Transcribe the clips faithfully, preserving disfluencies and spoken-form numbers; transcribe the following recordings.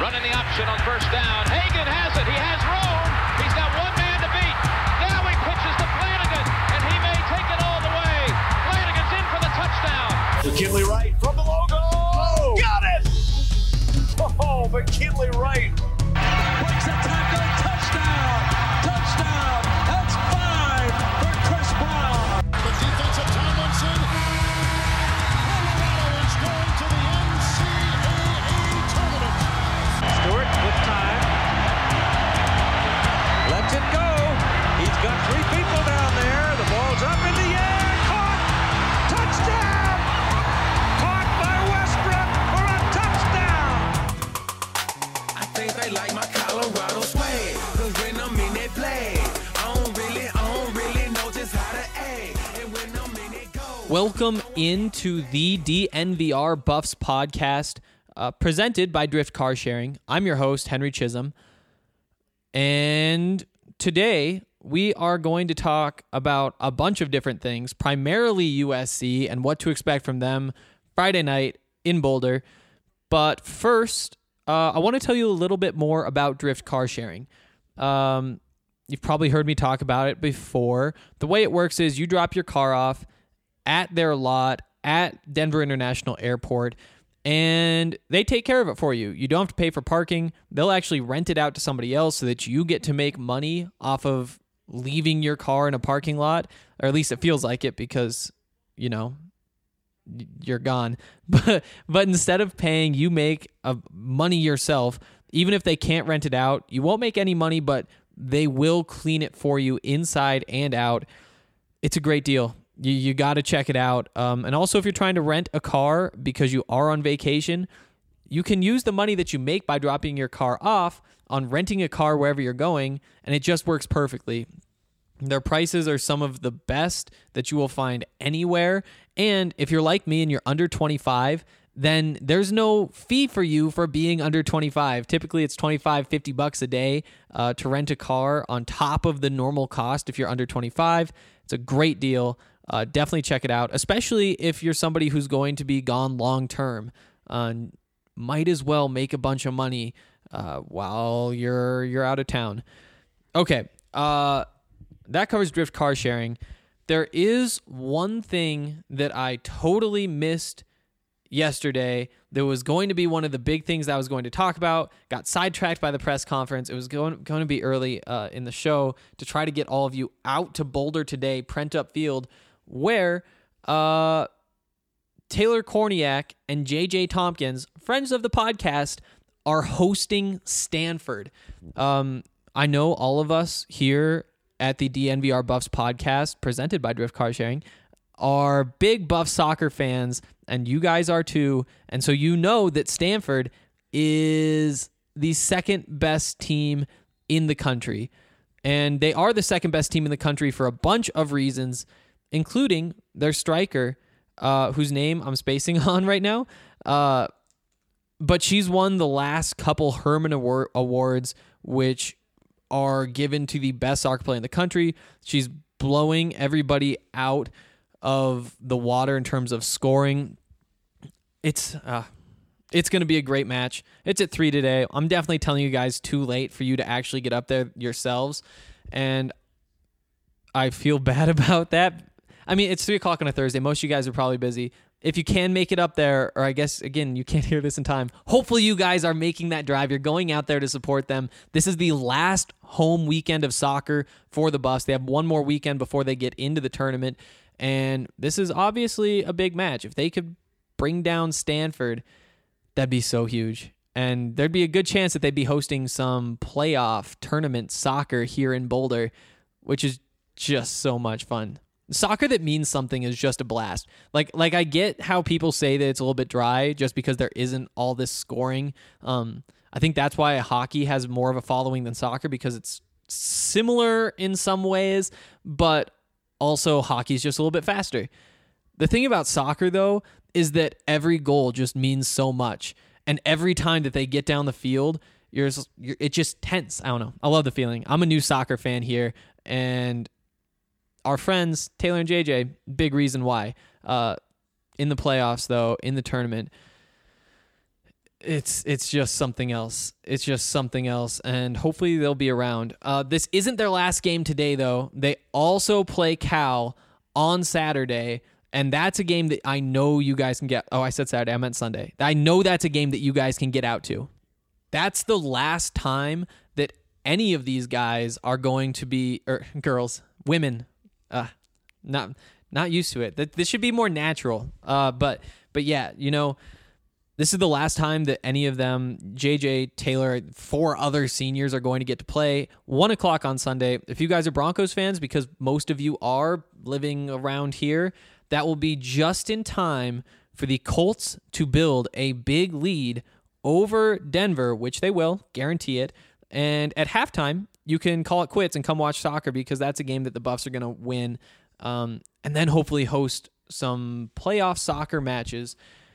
Running the option on first down. Hagan has it. He has room. He's got one man to beat. Now he pitches to Flanagan, and he may take it all the way. Flanagan's in for the touchdown. McKinley Wright from the logo. Oh, got it! Oh, McKinley Wright. Breaks a tackle. Touchdown. Touchdown. That's five for Chris Brown. The defensive Tomlinson. Colorado is going to the N C double A tournament. Stewart with time. Lets it go. He's got three people down there. The ball's up in the air. Caught. Touchdown. Caught by Westbrook for a touchdown. I think they like my Colorado swag. Cause when I'm in that play, I don't really, I don't really know just how to act. And when I'm in it go. Welcome into the D N V R Buffs podcast, uh, presented by Drift Car Sharing. I'm your host, Henry Chisholm. And today we are going to talk about a bunch of different things, primarily U S C and what to expect from them Friday night in Boulder. But first, uh, I want to tell you a little bit more about Drift Car Sharing. Um, you've probably heard me talk about it before. The way it works is you drop your car off at their lot at Denver International Airport, and they take care of it for you. You don't have to pay for parking. They'll actually rent it out to somebody else so that you get to make money off of leaving your car in a parking lot, or at least it feels like it because, you know, you're gone. But but instead of paying, you make uh, money yourself. Even if they can't rent it out, you won't make any money, but they will clean it for you inside and out. It's a great deal. You you got to check it out. Um, and also, if you're trying to rent a car because you are on vacation, you can use the money that you make by dropping your car off on renting a car wherever you're going, and it just works perfectly. Their prices are some of the best that you will find anywhere. And if you're like me and you're under twenty-five, then there's no fee for you for being under twenty-five. Typically, it's twenty-five, fifty bucks a day uh, to rent a car on top of the normal cost if you're under twenty-five. It's a great deal. Uh, definitely check it out, especially if you're somebody who's going to be gone long term. Uh, might as well make a bunch of money uh, while you're you're out of town. Okay, uh, that covers Drift Car Sharing. There is one thing that I totally missed yesterday. There was going to be one of the big things that I was going to talk about. Got sidetracked by the press conference. It was going going to be early uh, in the show to try to get all of you out to Boulder today, Prent Up Field, where uh, Taylor Korniak and J J Tompkins, friends of the podcast, are hosting Stanford. Um, I know all of us here at the D N V R Buffs podcast, presented by Drift Car Sharing, are big Buff soccer fans, and you guys are too. And so you know that Stanford is the second best team in the country. And they are the second best team in the country for a bunch of reasons, including their striker, uh, whose name I'm spacing on right now. Uh, but she's won the last couple Herman Award- Awards, which are given to the best soccer player in the country. She's blowing everybody out of the water in terms of scoring. It's uh, it's going to be a great match. It's at three today. I'm definitely telling you guys too late for you to actually get up there yourselves, and I feel bad about that. I mean, it's three o'clock on a Thursday. Most of you guys are probably busy. If you can make it up there, or I guess, again, you can't hear this in time, hopefully you guys are making that drive. You're going out there to support them. This is the last home weekend of soccer for the Buffs. They have one more weekend before they get into the tournament, and this is obviously a big match. If they could bring down Stanford, that'd be so huge. And there'd be a good chance that they'd be hosting some playoff tournament soccer here in Boulder, which is just so much fun. Soccer that means something is just a blast. Like, like I get how people say that it's a little bit dry just because there isn't all this scoring. Um, I think that's why hockey has more of a following than soccer, because it's similar in some ways, but also hockey's just a little bit faster. The thing about soccer, though, is that every goal just means so much. And every time that they get down the field, you're, just, you're it's just tense. I don't know. I love the feeling. I'm a new soccer fan here, and our friends, Taylor and J J, big reason why. Uh, in the playoffs, though, in the tournament, It's it's just something else. It's just something else, and hopefully they'll be around. Uh, this isn't their last game today, though. They also play Cal on Saturday, and that's a game that I know you guys can get. Oh, I said Saturday. I meant Sunday. I know that's a game that you guys can get out to. That's the last time that any of these guys are going to be, or girls, women, uh, not not used to it. This should be more natural. Uh, but but yeah, you know. This is the last time that any of them, J J, Taylor, four other seniors are going to get to play. One o'clock on Sunday. If you guys are Broncos fans, because most of you are living around here, that will be just in time for the Colts to build a big lead over Denver, which they will, guarantee it. And at halftime, you can call it quits and come watch soccer because that's a game that the Buffs are going to win. Um, and then hopefully host some playoff soccer matches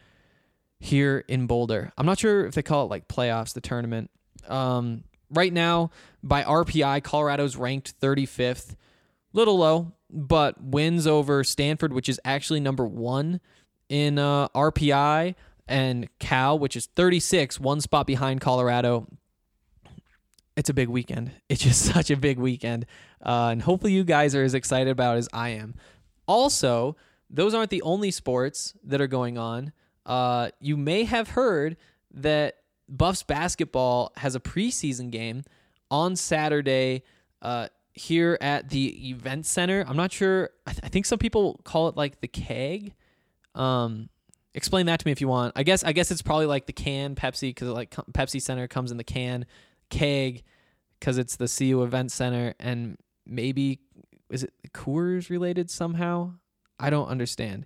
here in Boulder. I'm not sure if they call it like playoffs, the tournament. Um, right now, by R P I, Colorado's ranked thirty-fifth. Little low, but wins over Stanford, which is actually number one in uh, R P I, and Cal, which is thirty-six, one spot behind Colorado. It's a big weekend. It's just such a big weekend. Uh, and hopefully you guys are as excited about it as I am. Also, those aren't the only sports that are going on. Uh, you may have heard that Buffs basketball has a preseason game on Saturday uh, here at the event center. I'm not sure. I, th- I think some people call it like the keg. Um, explain that to me if you want. I guess I guess it's probably like the can Pepsi because like Pepsi Center comes in the can. Keg because it's the C U Event Center, and maybe is it Coors related somehow? I don't understand.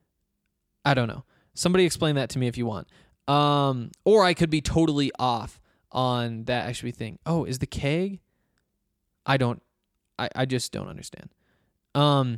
I don't know. Somebody explain that to me if you want. Um, or I could be totally off on that actually thing. Oh, is the keg? I don't, I, I just don't understand. Um,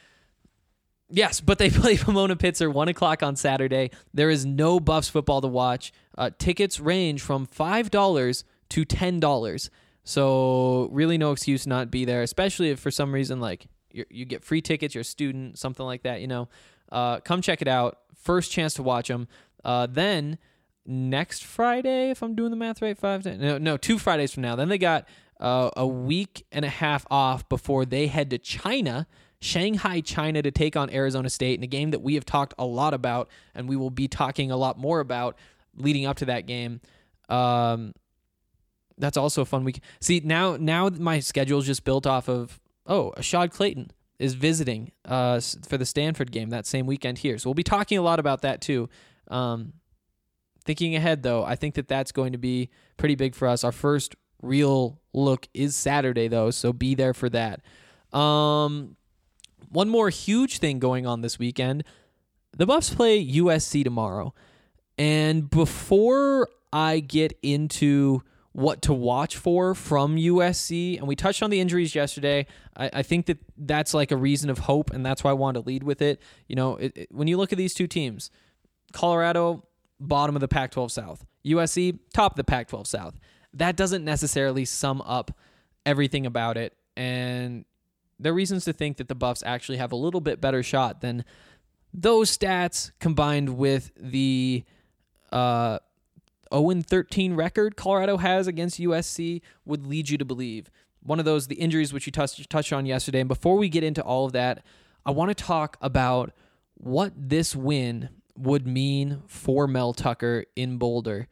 yes, but they play Pomona Pitzer one o'clock on Saturday. There is no Buffs football to watch. Uh, tickets range from five dollars to ten dollars. So really no excuse not to be there, especially if for some reason like you you get free tickets, you're a student, something like that, you know. Uh, come check it out. First chance to watch them. Uh, then next Friday, if I'm doing the math right, five, ten, no, no, two Fridays from now. Then they got uh, a week and a half off before they head to China, Shanghai, China, to take on Arizona State in a game that we have talked a lot about, and we will be talking a lot more about leading up to that game. Um, that's also a fun week. See, now, now my schedule is just built off of oh, Ashad Clayton is visiting uh, for the Stanford game that same weekend here. So we'll be talking a lot about that too. Um, thinking ahead, though, I think that that's going to be pretty big for us. Our first real look is Saturday, though, so be there for that. Um, one more huge thing going on this weekend. The Buffs play U S C tomorrow. And before I get into what to watch for from U S C, and we touched on the injuries yesterday. I, I think that that's like a reason of hope, and that's why I wanted to lead with it. You know, it, it, when you look at these two teams, Colorado, bottom of the Pac twelve South, U S C, top of the Pac twelve South. That doesn't necessarily sum up everything about it, and there are reasons to think that the Buffs actually have a little bit better shot than those stats combined with the uh, oh and thirteen record Colorado has against U S C would lead you to believe. One of those, the injuries which you touched, touched on yesterday. And before we get into all of that, I want to talk about what this win would mean for Mel Tucker in Boulder.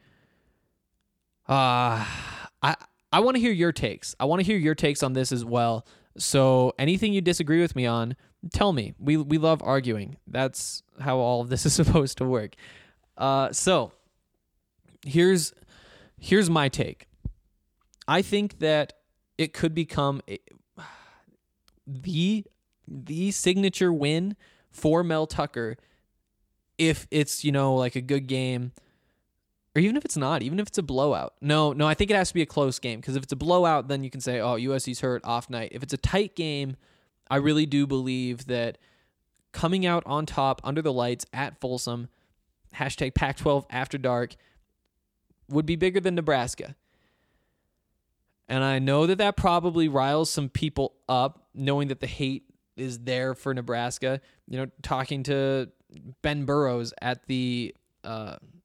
Uh, I, I want to hear your takes. I want to hear your takes on this as well. So anything you disagree with me on, tell me. We we love arguing. That's how all of this is supposed to work. Uh, so here's here's my take. I think that it could become a, the the signature win for Mel Tucker if it's, you know, like a good game, or even if it's not, even if it's a blowout. No, no, I think it has to be a close game, because if it's a blowout, then you can say, oh, U S C's hurt, off night. If it's a tight game, I really do believe that coming out on top under the lights at Folsom, hashtag Pac twelve after dark, would be bigger than Nebraska. And I know that that probably riles some people up, knowing that the hate is there for Nebraska. You know, talking to Ben Burrows at the uh,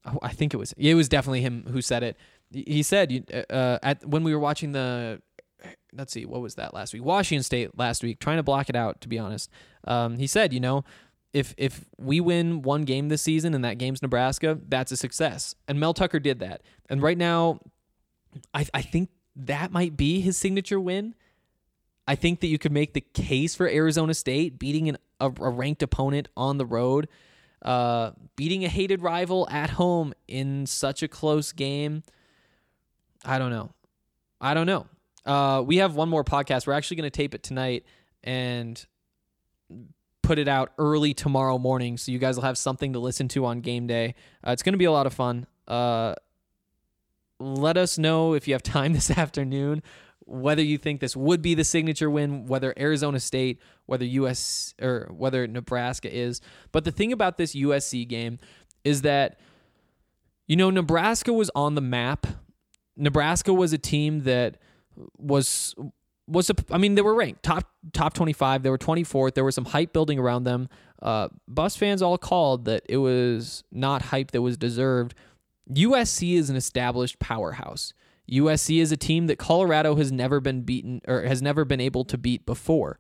oh, I think it was, it was definitely him who said it. He said, uh, at when we were watching the, let's see, what was that last week? Washington State last week, trying to block it out, to be honest. Um, he said, you know, if if we win one game this season and that game's Nebraska, that's a success. And Mel Tucker did that. And right now, I I think that might be his signature win. I think that you could make the case for Arizona State beating an, a, a ranked opponent on the road, uh, beating a hated rival at home in such a close game. I don't know. I don't know. Uh, we have one more podcast. We're actually going to tape it tonight and put it out early tomorrow morning, so you guys will have something to listen to on game day. Uh, it's going to be a lot of fun. Uh, let us know if you have time this afternoon whether you think this would be the signature win, whether Arizona State, whether U S or whether Nebraska is. But the thing about this U S C game is that, you know, Nebraska was on the map. Nebraska was a team that was was a, I mean, they were ranked top top twenty-five. They were twenty-fourth. There was some hype building around them. Uh, Buffs fans all called that it was not hype that was deserved. U S C is an established powerhouse. U S C is a team that Colorado has never been beaten or has never been able to beat before.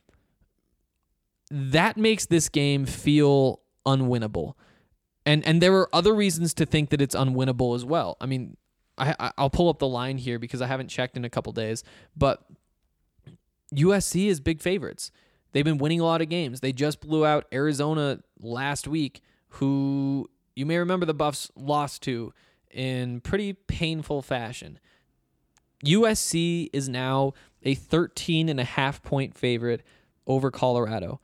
That makes this game feel unwinnable. And and there are other reasons to think that it's unwinnable as well. I mean, I, I'll pull up the line here because I haven't checked in a couple days, but U S C is big favorites. They've been winning a lot of games. They just blew out Arizona last week, who you may remember the Buffs lost to in pretty painful fashion. U S C is now a thirteen and a half point favorite over Colorado.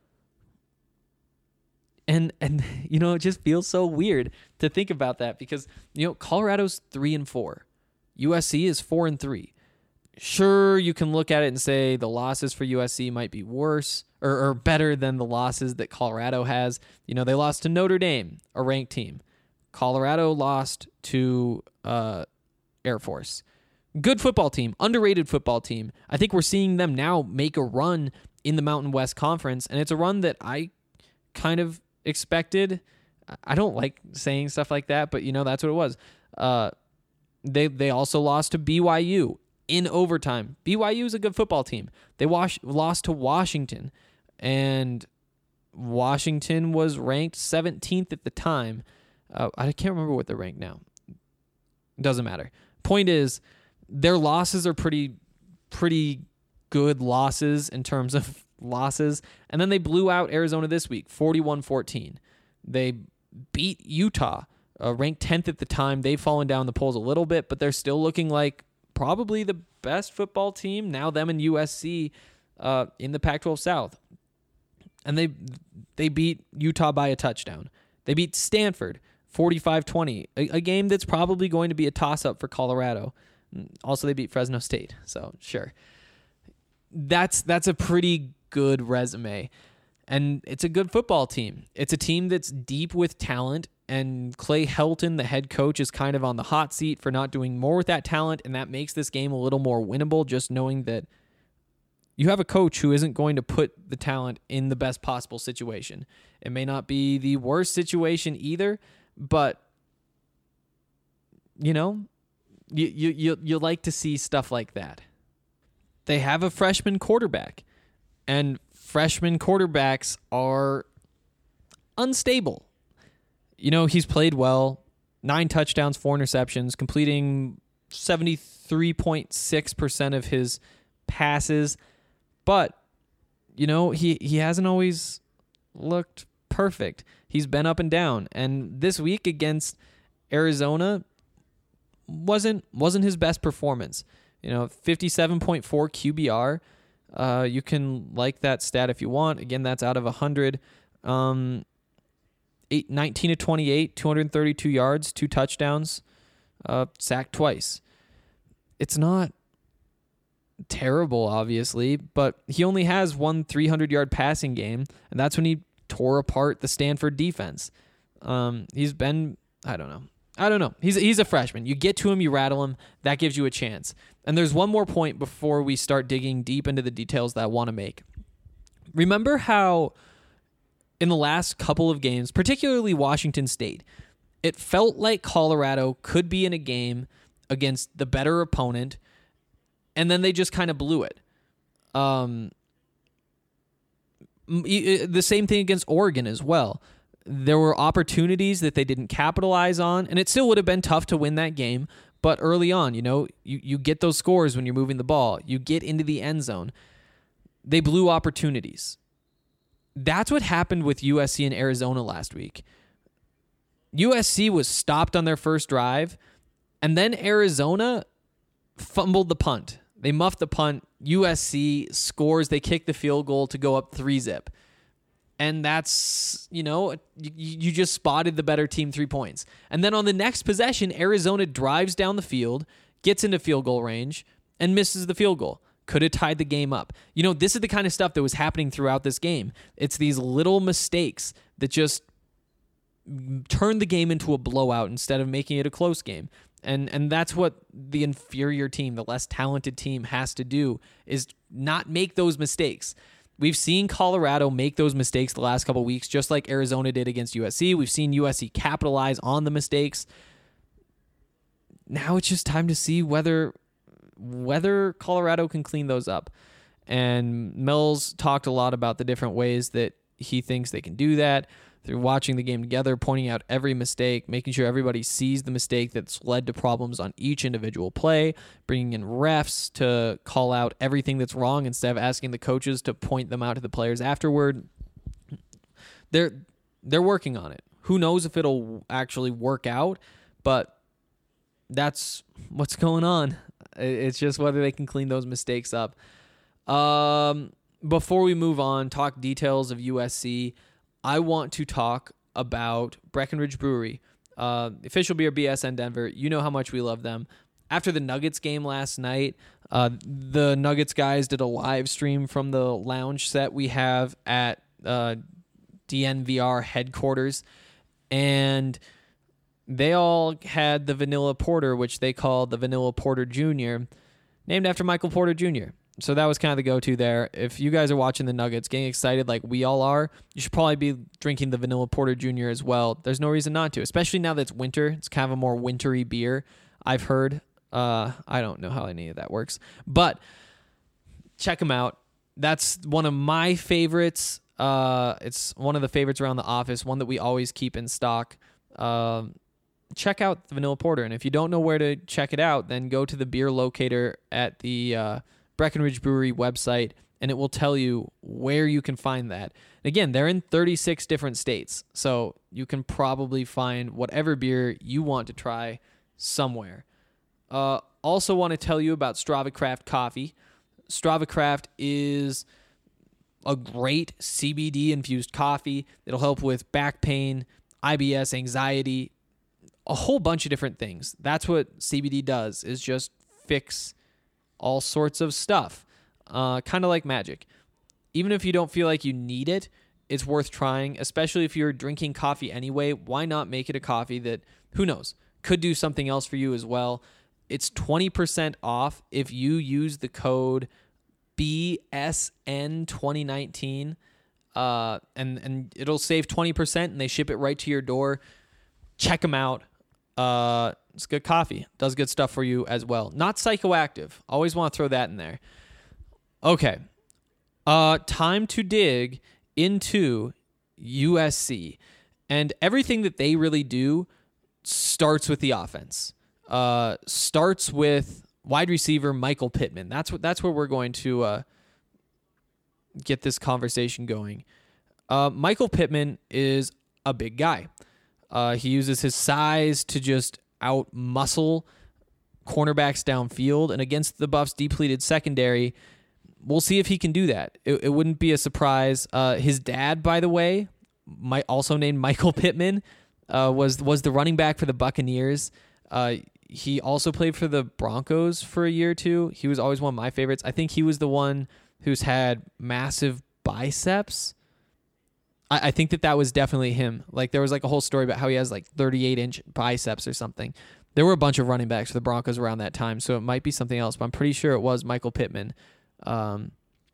And, and you know, it just feels so weird to think about that because, you know, Colorado's three and four. U S C is four and three. Sure, you can look at it and say the losses for U S C might be worse or, or better than the losses that Colorado has. You know, they lost to Notre Dame, a ranked team. Colorado lost to uh, Air Force. Good football team, underrated football team. I think we're seeing them now make a run in the Mountain West Conference, and it's a run that I kind of expected. I don't like saying stuff like that, but, you know, that's what it was. Uh, they they also lost to B Y U in overtime. B Y U is a good football team. They wash, lost to Washington, and Washington was ranked seventeenth at the time. Uh, I can't remember what they're ranked now. Doesn't matter. Point is, their losses are pretty, pretty good losses in terms of losses. And then they blew out Arizona this week, forty-one fourteen. They beat Utah, uh, ranked tenth at the time. They've fallen down the polls a little bit, but they're still looking like probably the best football team, now them and U S C, uh, in the Pac twelve South. And they they beat Utah by a touchdown. They beat Stanford forty-five twenty, a, a game that's probably going to be a toss-up for Colorado. Also, they beat Fresno State, so sure. That's that's a pretty good resume, and it's a good football team. It's a team that's deep with talent, and Clay Helton, the head coach, is kind of on the hot seat for not doing more with that talent, and that makes this game a little more winnable, just knowing that you have a coach who isn't going to put the talent in the best possible situation. It may not be the worst situation either, but, you know, you you you, you like to see stuff like that. They have a freshman quarterback, and freshman quarterbacks are unstable. You know, he's played well, nine touchdowns, four interceptions, completing seventy-three point six percent of his passes. But, you know, he, he hasn't always looked perfect. He's been up and down. And this week against Arizona wasn't wasn't his best performance. You know, fifty-seven point four Q B R. Uh, you can like that stat if you want. Again, that's out of one hundred. Um, eight, nineteen to twenty-eight, two hundred thirty-two yards, two touchdowns, uh, sacked twice. It's not terrible, obviously, but he only has one three hundred-yard passing game, and that's when he tore apart the Stanford defense. Um, he's been, I don't know. I don't know. He's he's a freshman. You get to him, you rattle him. That gives you a chance. And there's one more point before we start digging deep into the details that I want to make. Remember how in the last couple of games, particularly Washington State, It felt like Colorado could be in a game against the better opponent, and then they just kind of blew it. Um, the same thing against Oregon as well. There were opportunities that they didn't capitalize on, and it still would have been tough to win that game. But early on, you know, you, you get those scores when you're moving the ball. You get into the end zone. They blew opportunities. That's what happened with U S C and Arizona last week. U S C was stopped on their first drive, and then Arizona fumbled the punt. They muffed the punt. U S C scores. They kick the field goal to go up three zip. And that's, you know, you, you just spotted the better team three points. And then on the next possession, Arizona drives down the field, gets into field goal range, and misses the field goal. Could have tied the game up. You know, this is the kind of stuff that was happening throughout this game. It's these little mistakes that just turn the game into a blowout instead of making it a close game. And and that's what the inferior team, the less talented team, has to do, is not make those mistakes. We've seen Colorado make those mistakes the last couple of weeks, just like Arizona did against U S C. We've seen U S C capitalize on the mistakes. Now it's just time to see whether whether Colorado can clean those up. And Mills talked a lot about the different ways that he thinks they can do that, through watching the game together, pointing out every mistake, making sure everybody sees the mistake that's led to problems on each individual play, bringing in refs to call out everything that's wrong instead of asking the coaches to point them out to the players afterward. They're they're working on it. Who knows if it'll actually work out, but that's what's going on. It's just whether they can clean those mistakes up. Um, before we move on, talk details of U S C, I want to talk about Breckenridge Brewery, uh, official beer B S N Denver. You know how much we love them. After the Nuggets game last night, uh, the Nuggets guys did a live stream from the lounge set we have at uh, D N V R headquarters, and they all had the Vanilla Porter, which they called the Vanilla Porter Junior, named after Michael Porter Junior So that was kind of the go-to there. If you guys are watching the Nuggets, getting excited like we all are, you should probably be drinking the Vanilla Porter Junior as well. There's no reason not to, especially now that it's winter. It's kind of a more wintry beer, I've heard. Uh, I don't know how any of that works, but check them out. That's one of my favorites. Uh, it's one of the favorites around the office, one that we always keep in stock. Um, check out the Vanilla Porter, and if you don't know where to check it out, then go to the beer locator at the uh, Breckenridge Brewery website, and it will tell you where you can find that. And again, they're in thirty-six different states, so you can probably find whatever beer you want to try somewhere. Uh, also want to tell you about Strava Craft Coffee. Strava Craft is a great C B D-infused coffee. It'll help with back pain, I B S, anxiety, a whole bunch of different things. That's what C B D does, is just fix all sorts of stuff, uh, kind of like magic. Even if you don't feel like you need it, it's worth trying, especially if you're drinking coffee anyway. Why not make it a coffee that, who knows, could do something else for you as well. It's twenty percent off if you use the code B S N twenty nineteen, uh, and, and it'll save twenty percent, and they ship it right to your door. Check them out. Uh, it's good coffee. Does good stuff for you as well. Not psychoactive. Always want to throw that in there. Okay. Uh, time to dig into U S C. And everything that they really do starts with the offense. Uh, starts with wide receiver Michael Pittman. That's what. That's where we're going to uh, get this conversation going. Uh, Michael Pittman is a big guy. Uh, he uses his size to just out-muscle cornerbacks downfield, and against the Buffs' depleted secondary, we'll see if he can do that. It, it wouldn't be a surprise. Uh, his dad, by the way, might also named Michael Pittman, uh, was was the running back for the Buccaneers. Uh, he also played for the Broncos for a year or two. He was always one of my favorites. I think he was the one who's had massive biceps. I, I think that that was definitely him. Like, there was like a whole story about how he has like thirty-eight inch biceps or something. There were a bunch of running backs for the Broncos around that time, so it might be something else, but I'm pretty sure it was Michael Pittman. Um,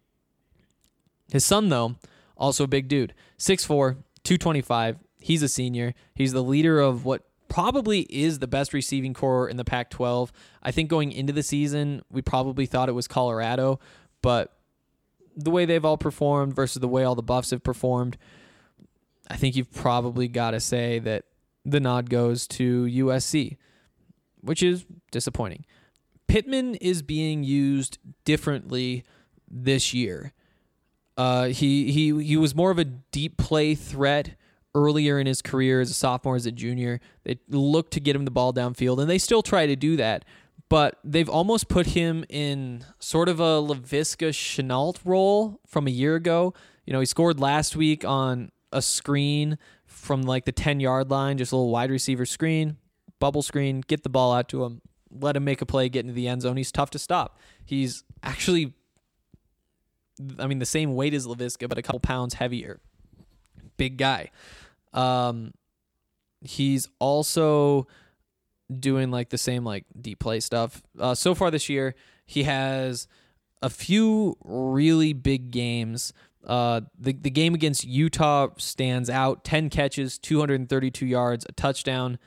his son, though, also a big dude. six foot four, two twenty-five. He's a senior. He's the leader of what probably is the best receiving core in the Pac twelve. I think going into the season, we probably thought it was Colorado, but the way they've all performed versus the way all the Buffs have performed, I think you've probably got to say that the nod goes to U S C, which is disappointing. Pittman is being used differently this year. Uh, he he he was more of a deep play threat earlier in his career as a sophomore, as a junior. They looked to get him the ball downfield, and they still try to do that. But they've almost put him in sort of a Laviska Shenault role from a year ago. You know, he scored last week on a screen from like the ten-yard line, just a little wide receiver screen, bubble screen, get the ball out to him, let him make a play, get into the end zone. He's tough to stop. He's actually, I mean, the same weight as Laviska, but a couple pounds heavier. Big guy. Um, he's also doing like the same like deep play stuff. Uh, so far this year, he has a few really big games. Uh, the the game against Utah stands out. ten catches, two hundred thirty-two yards, a touchdown.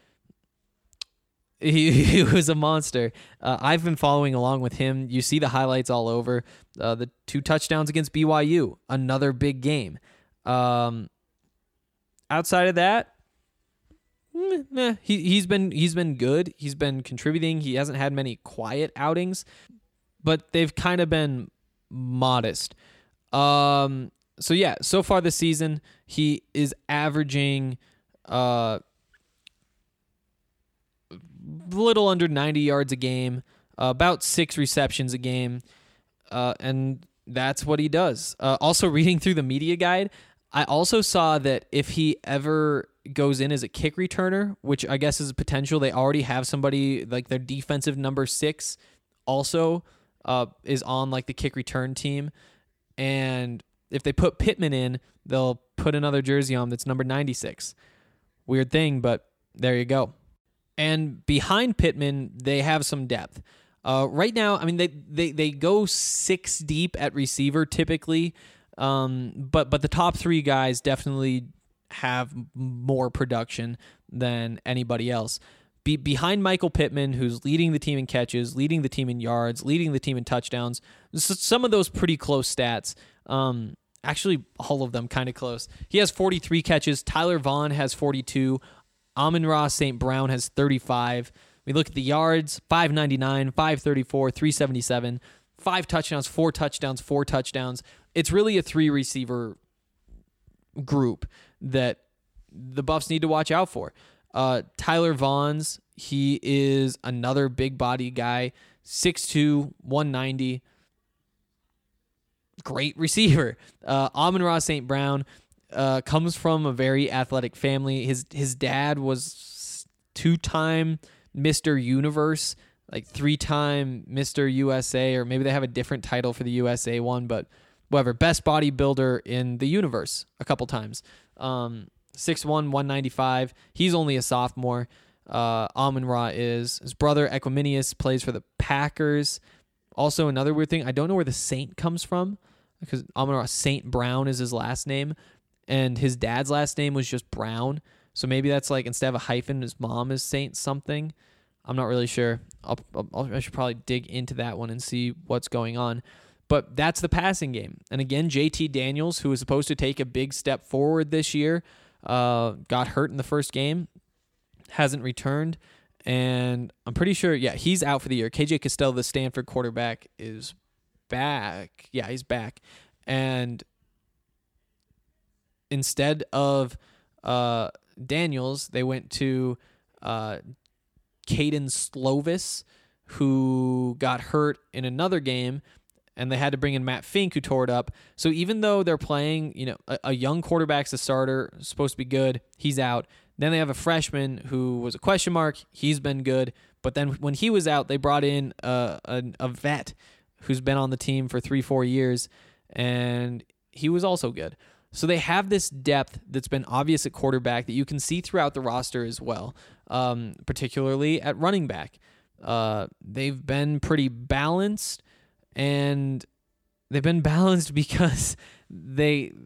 He, he was a monster. Uh, I've been following along with him. You see the highlights all over. Uh, the two touchdowns against B Y U, another big game. Um, outside of that, meh, meh. he he's been he's been good. He's been contributing. He hasn't had many quiet outings, but they've kind of been modest. Um. So yeah, so far this season, he is averaging uh, a little under ninety yards a game, uh, about six receptions a game, uh, and that's what he does. Uh, also, reading through the media guide, I also saw that if he ever goes in as a kick returner, which I guess is a potential, they already have somebody like their defensive number six also uh, is on like the kick return team. And if they put Pittman in, they'll put another jersey on that's number ninety-six. Weird thing, but there you go. And behind Pittman, they have some depth. Uh, right now, I mean, they, they, they go six deep at receiver typically, um, but but the top three guys definitely have more production than anybody else. Be, behind Michael Pittman, who's leading the team in catches, leading the team in yards, leading the team in touchdowns. So some of those pretty close stats. Um, actually, all of them kind of close. He has forty-three catches. Tyler Vaughn has forty-two. Amon-Ra Saint Brown has thirty-five. We look at the yards, five ninety-nine, five thirty-four, three seventy-seven, five touchdowns, four touchdowns, four touchdowns. It's really a three-receiver group that the Buffs need to watch out for. Uh, Tyler Vaughn's, he is another big body guy, six two, one ninety, great receiver. Uh, Amon-Ra Saint Brown uh, comes from a very athletic family. His his dad was two-time Mister Universe, like three-time Mister U S A, or maybe they have a different title for the U S A one, but whatever, best bodybuilder in the universe a couple times. Um, six one, one ninety-five. He's only a sophomore. Uh, Amon-Ra is. His brother, Equiminius, plays for the Packers. Also, another weird thing, I don't know where the Saint comes from, because Amon-Ra Saint Brown is his last name, and his dad's last name was just Brown. So maybe that's like, instead of a hyphen, his mom is Saint something. I'm not really sure. I'll, I'll, I should probably dig into that one and see what's going on. But that's the passing game. And again, J T Daniels, who was supposed to take a big step forward this year, uh, got hurt in the first game, hasn't returned. And I'm pretty sure, yeah, he's out for the year. K J Costello, the Stanford quarterback, is back. Yeah, he's back. And instead of uh, Daniels, they went to uh, Caden Slovis, who got hurt in another game, and they had to bring in Matt Fink, who tore it up. So even though they're playing, you know, a, a young quarterback's a starter, supposed to be good, he's out. Then they have a freshman who was a question mark. He's been good. But then when he was out, they brought in a, a, a vet who's been on the team for three, four years, and he was also good. So they have this depth that's been obvious at quarterback that you can see throughout the roster as well, um, particularly at running back. Uh, they've been pretty balanced, and they've been balanced because they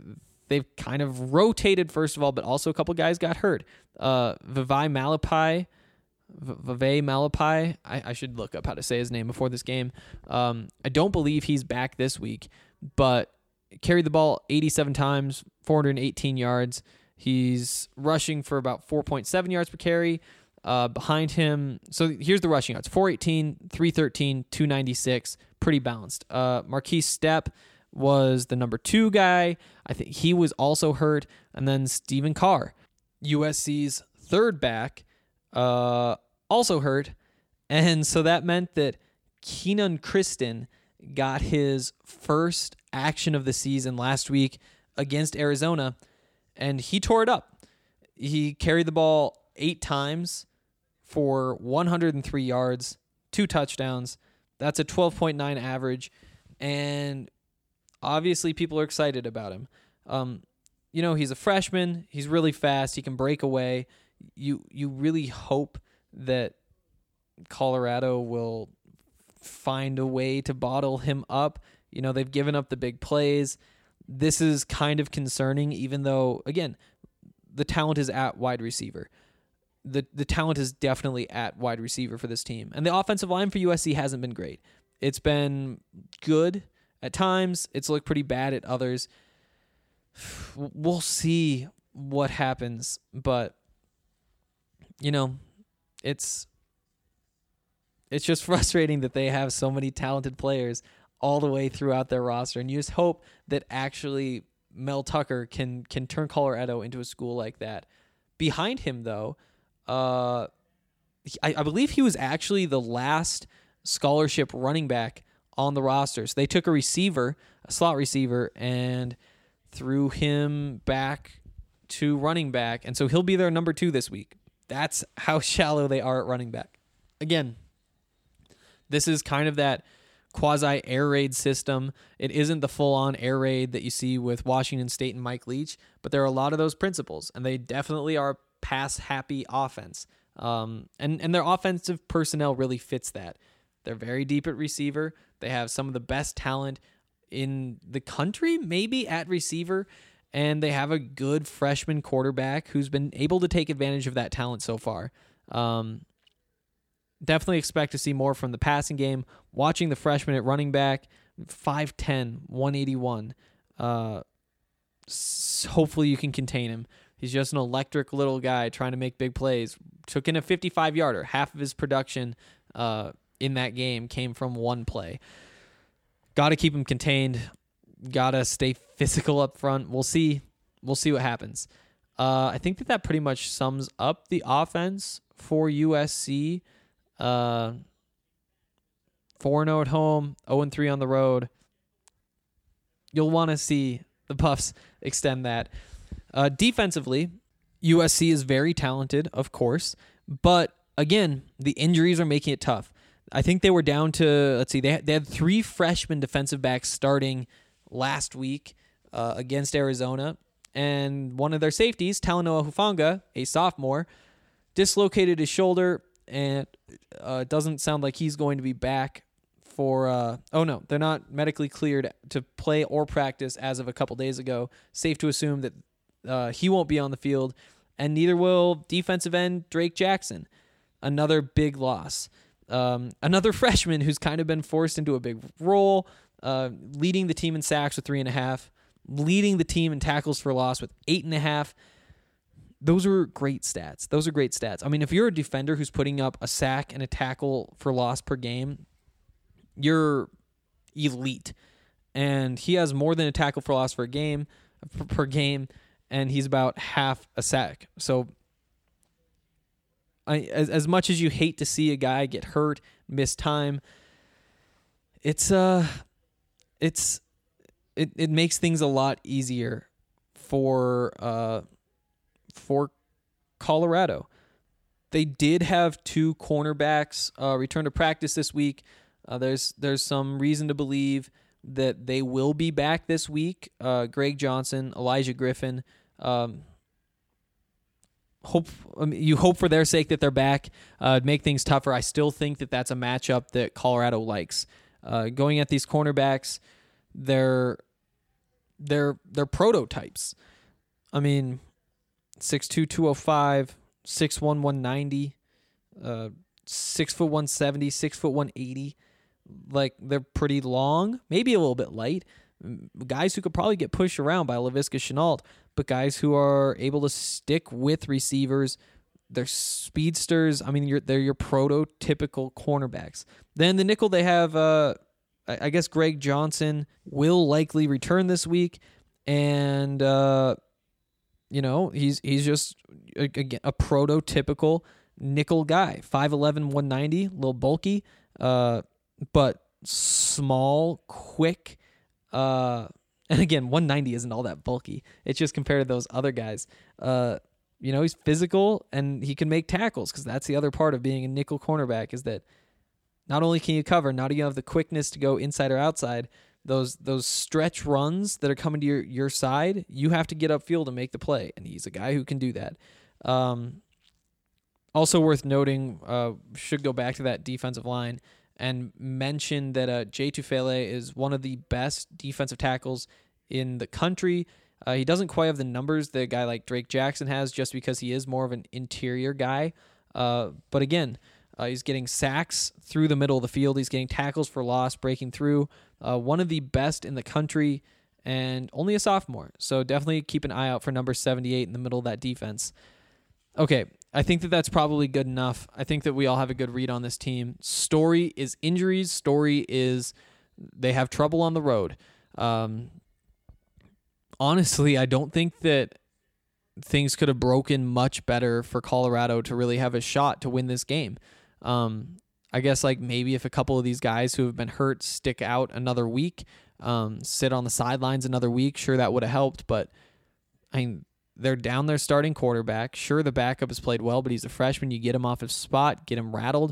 they've kind of rotated, first of all, but also a couple guys got hurt. Uh, Vivai Malapai, Vivai Malapai, I, I should look up how to say his name before this game. Um, I don't believe he's back this week, but carried the ball eighty-seven times, four hundred eighteen yards. He's rushing for about four point seven yards per carry. Uh, behind him, so here's the rushing yards: four eighteen, three thirteen, two ninety-six. Pretty balanced. Uh, Marquise Stepp was the number two guy. I think he was also hurt. And then Stephen Carr, U S C's third back, uh, also hurt. And so that meant that Keenan Kristen got his first action of the season last week against Arizona, and he tore it up. He carried the ball eight times for one hundred three yards, two touchdowns. That's a twelve point nine average, and obviously people are excited about him. Um, you know, he's a freshman. He's really fast. He can break away. You you really hope that Colorado will find a way to bottle him up. You know, they've given up the big plays. This is kind of concerning, even though, again, the talent is at wide receiver. The the talent is definitely at wide receiver for this team. And the offensive line for U S C hasn't been great. It's been good at times. It's looked pretty bad at others. We'll see what happens. But, you know, it's it's just frustrating that they have so many talented players all the way throughout their roster. And you just hope that actually Mel Tucker can can turn Colorado into a school like that. Behind him, though, Uh, I, I believe he was actually the last scholarship running back on the roster. So they took a receiver, a slot receiver, and threw him back to running back. And so he'll be their number two this week. That's how shallow they are at running back. Again, this is kind of that quasi air raid system. It isn't the full-on air raid that you see with Washington State and Mike Leach, but there are a lot of those principles, and they definitely are pass-happy offense. Um, and, and their offensive personnel really fits that. They're very deep at receiver. They have some of the best talent in the country, maybe, at receiver, and they have a good freshman quarterback who's been able to take advantage of that talent so far. Um, definitely expect to see more from the passing game. Watching the freshman at running back, five ten, one eighty-one. Uh, hopefully you can contain him. He's just an electric little guy trying to make big plays. Took in a fifty-five-yarder. Half of his production uh, in that game came from one play. Got to keep him contained. Got to stay physical up front. We'll see. We'll see what happens. Uh, I think that that pretty much sums up the offense for U S C. Uh, four and oh at home, oh and three on the road. You'll want to see the Buffs extend that. Uh, defensively, U S C is very talented, of course, but again, the injuries are making it tough. I think they were down to, let's see, they had, they had three freshman defensive backs starting last week uh, against Arizona, and one of their safeties, Talanoa Hufanga, a sophomore, dislocated his shoulder, and uh, it doesn't sound like he's going to be back for, uh, oh no, they're not medically cleared to play or practice as of a couple days ago. Safe to assume that Uh, he won't be on the field, and neither will defensive end Drake Jackson. Another big loss. Um, another freshman who's kind of been forced into a big role, uh, leading the team in sacks with three and a half, leading the team in tackles for loss with eight and a half. Those are great stats. Those are great stats. I mean, if you're a defender who's putting up a sack and a tackle for loss per game, you're elite. And he has more than a tackle for loss for a game per game. And he's about half a sack. So I, as as much as you hate to see a guy get hurt, miss time, it's uh it's it, it makes things a lot easier for uh for Colorado. They did have two cornerbacks uh, return to practice this week. Uh, there's there's some reason to believe that they will be back this week. Uh, Greg Johnson, Elijah Griffin. Um, hope I mean, you hope for their sake that they're back. Uh, make things tougher. I still think that that's a matchup that Colorado likes. Uh, going at these cornerbacks, they're they're they're prototypes. I mean, six two, two oh five, six one, one ninety, uh, six foot one seventy, six foot one eighty. Like, they're pretty long, maybe a little bit light. Guys who could probably get pushed around by Laviska Shenault, but guys who are able to stick with receivers. They're speedsters. I mean, you're, they're your prototypical cornerbacks. Then the nickel, they have, uh, I guess, Greg Johnson will likely return this week, and uh, you know he's he's just again a prototypical nickel guy. five eleven, one ninety, a little bulky, uh, but small, quick. Uh, and again, one ninety isn't all that bulky. It's just compared to those other guys. Uh, You know, he's physical and he can make tackles, because that's the other part of being a nickel cornerback, is that not only can you cover, not do you have the quickness to go inside or outside, those those stretch runs that are coming to your, your side, you have to get upfield and make the play, and he's a guy who can do that. Um, also worth noting, uh, should go back to that defensive line and mention that uh, Jay Tufele is one of the best defensive tackles in the country. Uh, he doesn't quite have the numbers that a guy like Drake Jackson has, just because he is more of an interior guy. Uh, but again, uh, he's getting sacks through the middle of the field. He's getting tackles for loss, breaking through. Uh, one of the best in the country, and only a sophomore. So definitely keep an eye out for number seventy-eight in the middle of that defense. Okay, I think that that's probably good enough. I think that we all have a good read on this team. Story is injuries. Story is they have trouble on the road. Um, honestly, I don't think that things could have broken much better for Colorado to really have a shot to win this game. Um, I guess like maybe if a couple of these guys who have been hurt stick out another week, um, sit on the sidelines another week, sure, that would have helped. But I mean, they're down their starting quarterback. Sure, the backup has played well, but he's a freshman. You get him off his spot, get him rattled.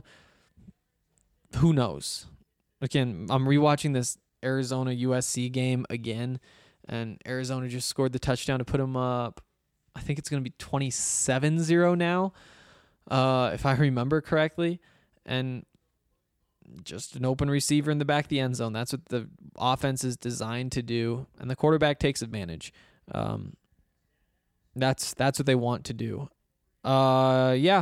Who knows? Again, I'm rewatching this Arizona U S C game again, and Arizona just scored the touchdown to put them up. I think it's going to be twenty-seven zero now, uh, if I remember correctly. And just an open receiver in the back of the end zone. That's what the offense is designed to do, and the quarterback takes advantage. Um, that's that's what they want to do. Uh, yeah.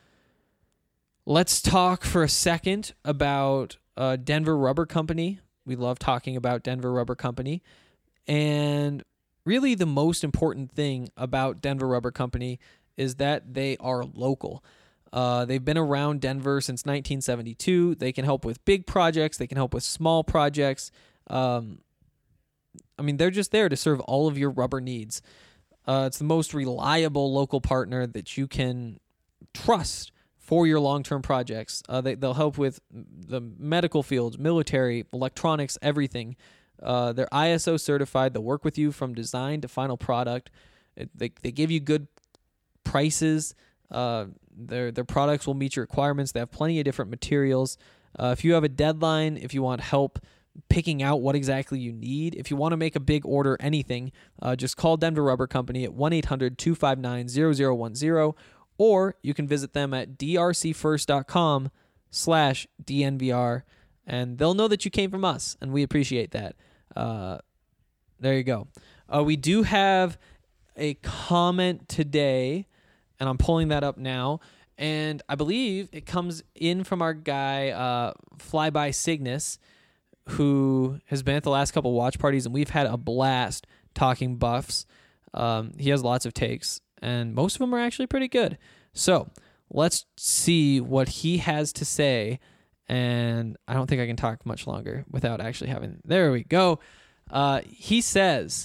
Let's talk for a second about uh, Denver Rubber Company. We love talking about Denver Rubber Company. And really the most important thing about Denver Rubber Company is that they are local. Uh, they've been around Denver since nineteen seventy-two. They can help with big projects. They can help with small projects. Um, I mean, they're just there to serve all of your rubber needs. Uh, it's the most reliable local partner that you can trust for your long-term projects. Uh, they, they'll help with the medical fields, military, electronics, everything. Uh, they're I S O certified. They'll work with you from design to final product. It, they they give you good prices. Uh, their their products will meet your requirements. They have plenty of different materials. Uh, if you have a deadline, if you want help picking out what exactly you need, if you want to make a big order, anything, uh, just call Denver Rubber Company at one eight hundred, two five nine, zero zero one zero, or you can visit them at d r c first dot com slash D N V R, and they'll know that you came from us, and we appreciate that. Uh, there you go. Uh, we do have a comment today, and I'm pulling that up now, and I believe it comes in from our guy, uh, Flyby Cygnus, who has been at the last couple watch parties, and we've had a blast talking Buffs. Um, he has lots of takes, and most of them are actually pretty good. So let's see what he has to say, and I don't think I can talk much longer without actually having... There we go. Uh, he says,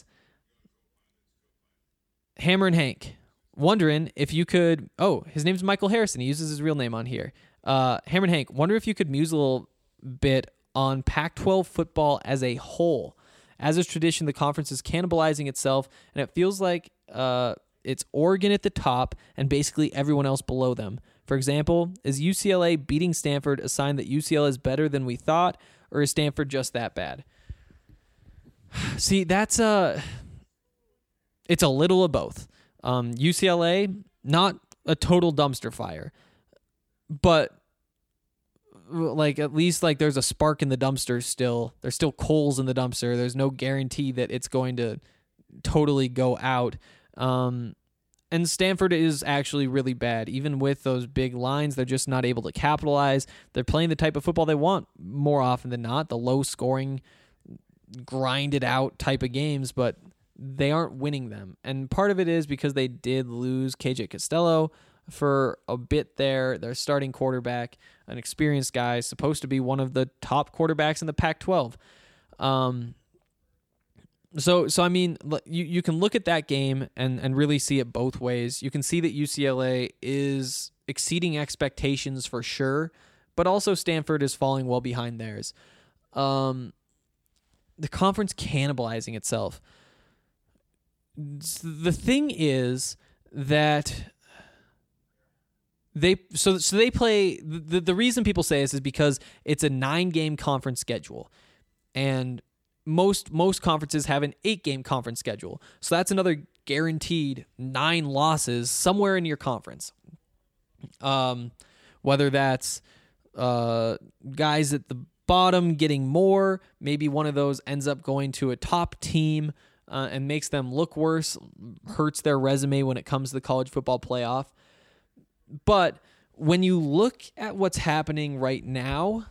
Hammer and Hank, wondering if you could... Oh, his name's Michael Harrison. He uses his real name on here. Uh, Hammer and Hank, wonder if you could muse a little bit on Pac twelve football as a whole. As is tradition, the conference is cannibalizing itself, and it feels like uh, it's Oregon at the top and basically everyone else below them. For example, is U C L A beating Stanford a sign that U C L A is better than we thought, or is Stanford just that bad? See, that's a... It's a little of both. Um, U C L A, not a total dumpster fire, but like at least like there's a spark in the dumpster still. There's still coals in the dumpster. There's no guarantee that it's going to totally go out. Um, and Stanford is actually really bad. Even with those big lines, they're just not able to capitalize. They're playing the type of football they want more often than not, the low scoring, grinded out type of games, but they aren't winning them. And part of it is because they did lose K J Costello for a bit there. Their starting quarterback, an experienced guy, supposed to be one of the top quarterbacks in the Pac twelve. Um, so, so I mean, you, you can look at that game and, and really see it both ways. You can see that U C L A is exceeding expectations for sure, but also Stanford is falling well behind theirs. Um, the conference cannibalizing itself. The thing is that they so so they play the the reason people say this is because it's a nine game conference schedule, and most most conferences have an eight game conference schedule. So that's another guaranteed nine losses somewhere in your conference. Um, whether that's uh guys at the bottom getting more, maybe one of those ends up going to a top team. Uh, and makes them look worse, hurts their resume when it comes to the college football playoff. But when you look at what's happening right now,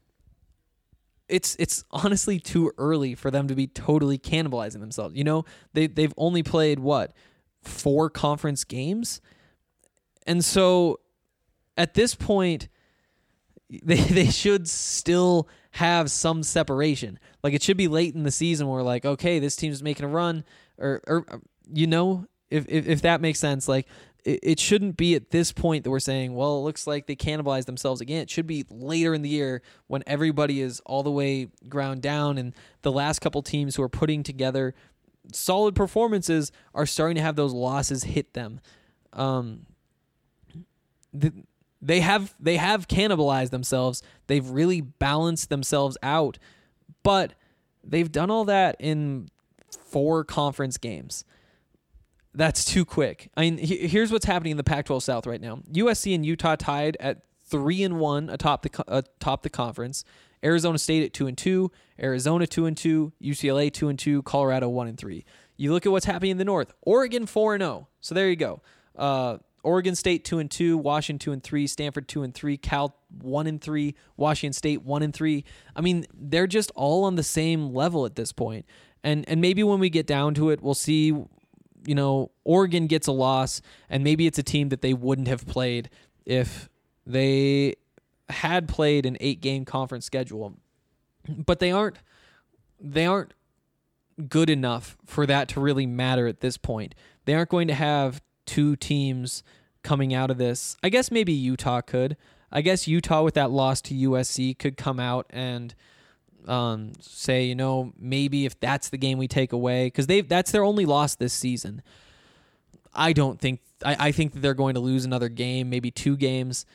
it's it's honestly too early for them to be totally cannibalizing themselves. You know, they they've only played what, four conference games, and so at this point, they they should still have some separation. Like, it should be late in the season where we're like, okay, this team's making a run, or, or you know, if, if if that makes sense. Like, it, it shouldn't be at this point that we're saying, well, it looks like they cannibalized themselves again. It should be later in the year when everybody is all the way ground down, and the last couple teams who are putting together solid performances are starting to have those losses hit them. Um, the, They have they have cannibalized themselves. They've really balanced themselves out, but they've done all that in four conference games. That's too quick. I mean, here's what's happening in the Pac twelve South right now. U S C and Utah tied at three and one atop the atop the conference. Arizona State at two and two. Arizona two and two. U C L A two and two. Colorado one and three. You look at what's happening in the North. Oregon four and zero. So there you go. Uh, Oregon State two and two, Washington two and three, Stanford two and three, Cal one and three, Washington State one and three. I mean, they're just all on the same level at this point. And and maybe when we get down to it, we'll see, you know, Oregon gets a loss, and maybe it's a team that they wouldn't have played if they had played an eight-game conference schedule. But they aren't they aren't good enough for that to really matter at this point. They aren't going to have two teams coming out of this. I guess maybe Utah could. I guess Utah with that loss to U S C could come out and um, say, you know, maybe if that's the game we take away, because they that's their only loss this season. I don't think I, I think that they're going to lose another game, maybe two games.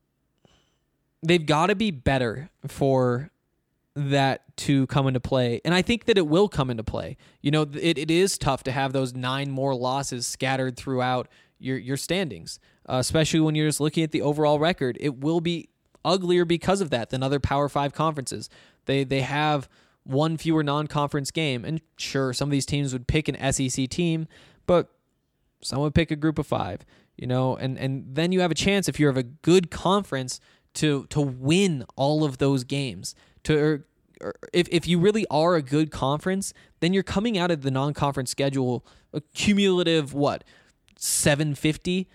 They've got to be better for that to come into play. And I think that it will come into play. You know, it, it is tough to have those nine more losses scattered throughout your, your standings, uh, especially when you're just looking at the overall record. It will be uglier because of that than other Power Five conferences. They they have one fewer non-conference game. And sure, some of these teams would pick an S E C team, but some would pick a group of five, you know, and, and then you have a chance, if you have a good conference, to to win all of those games. To or, or if if you really are a good conference, then you're coming out of the non-conference schedule a cumulative what seven fifty,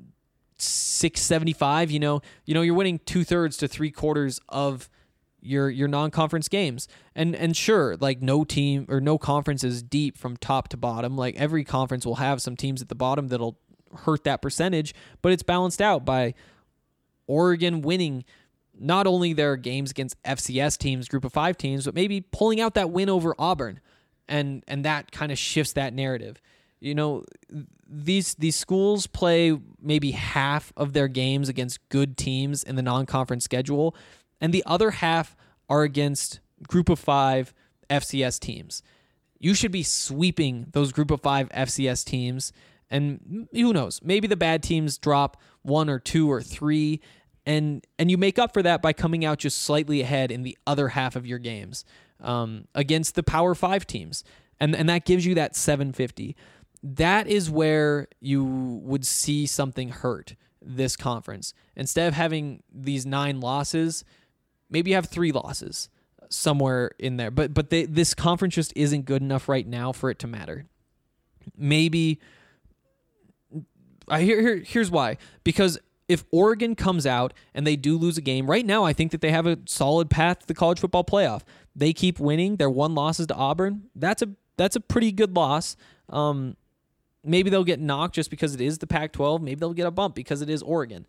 six seventy-five. You know, you know you're winning two thirds to three quarters of your your non-conference games, and and sure, like no team or no conference is deep from top to bottom. Like every conference will have some teams at the bottom that'll hurt that percentage, but it's balanced out by Oregon winning not only their games against F C S teams, group of five teams, but maybe pulling out that win over Auburn. And and that kind of shifts that narrative. You know, these these schools play maybe half of their games against good teams in the non-conference schedule, and the other half are against group of five F C S teams. You should be sweeping those group of five F C S teams, and who knows, maybe the bad teams drop one or two or three, And and you make up for that by coming out just slightly ahead in the other half of your games um, against the Power Five teams. And, and that gives you that seven fifty. That is where you would see something hurt this conference. Instead of having these nine losses, maybe you have three losses somewhere in there. But but they, this conference just isn't good enough right now for it to matter. Maybe I here, here here's why. Because if Oregon comes out and they do lose a game, right now I think that they have a solid path to the college football playoff. They keep winning. Their one losses to Auburn. That's a that's a pretty good loss. Um, maybe they'll get knocked just because it is the Pac twelve. Maybe they'll get a bump because it is Oregon.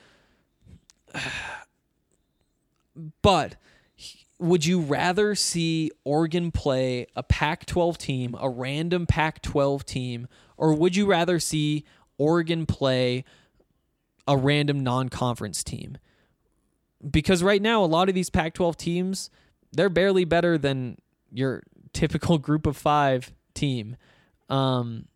But would you rather see Oregon play a Pac twelve team, a random Pac twelve team, or would you rather see Oregon play a random non-conference team? Because right now, a lot of these Pac twelve teams, they're barely better than your typical group of five team. Um,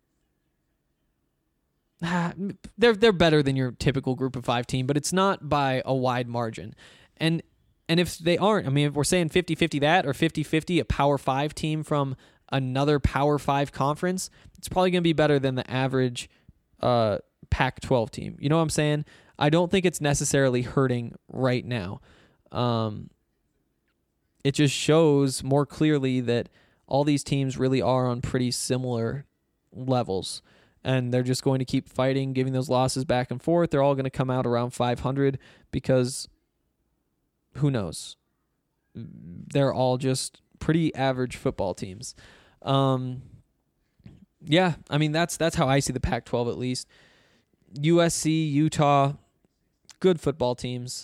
they're they're better than your typical group of five team, but it's not by a wide margin. And and if they aren't, I mean, if we're saying fifty-fifty that or fifty-fifty a Power five team from another Power five conference, it's probably going to be better than the average uh, Pac twelve team. You know what I'm saying? I don't think it's necessarily hurting right now. Um, it just shows more clearly that all these teams really are on pretty similar levels, and they're just going to keep fighting, giving those losses back and forth. They're all going to come out around five hundred because who knows? They're all just pretty average football teams. Um, yeah, I mean, that's that's how I see the Pac twelve at least. U S C, Utah, good football teams.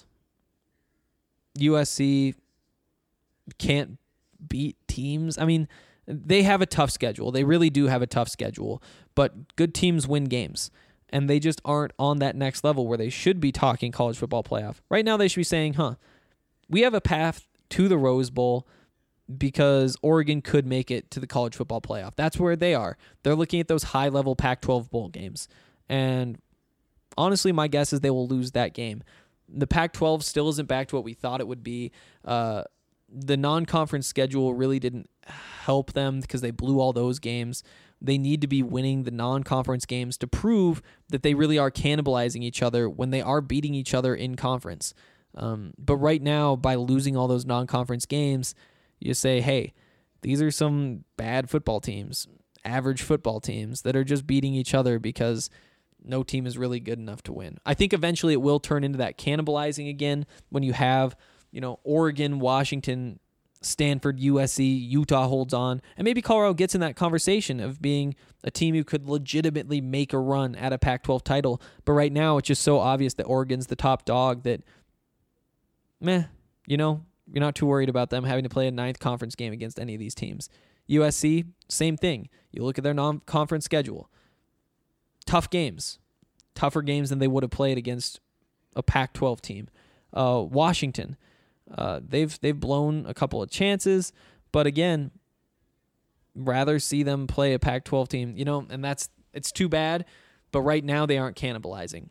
U S C can't beat teams. I mean, they have a tough schedule. They really do have a tough schedule, but good teams win games, and they just aren't on that next level where they should be talking college football playoff. Right now, they should be saying, huh, we have a path to the Rose Bowl because Oregon could make it to the college football playoff. That's where they are. They're looking at those high-level Pac twelve bowl games, and honestly, my guess is they will lose that game. The Pac twelve still isn't back to what we thought it would be. Uh, the non-conference schedule really didn't help them because they blew all those games. They need to be winning the non-conference games to prove that they really are cannibalizing each other when they are beating each other in conference. Um, but right now, by losing all those non-conference games, you say, hey, these are some bad football teams, average football teams that are just beating each other because no team is really good enough to win. I think eventually it will turn into that cannibalizing again when you have, you know, Oregon, Washington, Stanford, U S C, Utah holds on, and maybe Colorado gets in that conversation of being a team who could legitimately make a run at a Pac twelve title. But right now, it's just so obvious that Oregon's the top dog that, meh, you know, you're not too worried about them having to play a ninth conference game against any of these teams. U S C, same thing. You look at their non-conference schedule. Tough games. Tougher games than they would have played against a Pac twelve team. Uh, Washington, uh, they've they've blown a couple of chances, but again, rather see them play a Pac twelve team, you know, and that's it's too bad, but right now they aren't cannibalizing.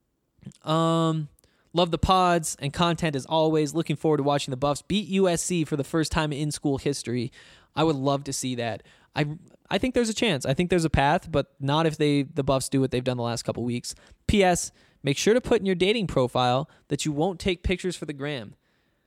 Um, love the pods and content as always. Looking forward to watching the Buffs beat U S C for the first time in school history. I would love to see that. I I think there's a chance. I think there's a path, but not if they the Buffs do what they've done the last couple weeks. P S. Make sure to put in your dating profile that you won't take pictures for the gram.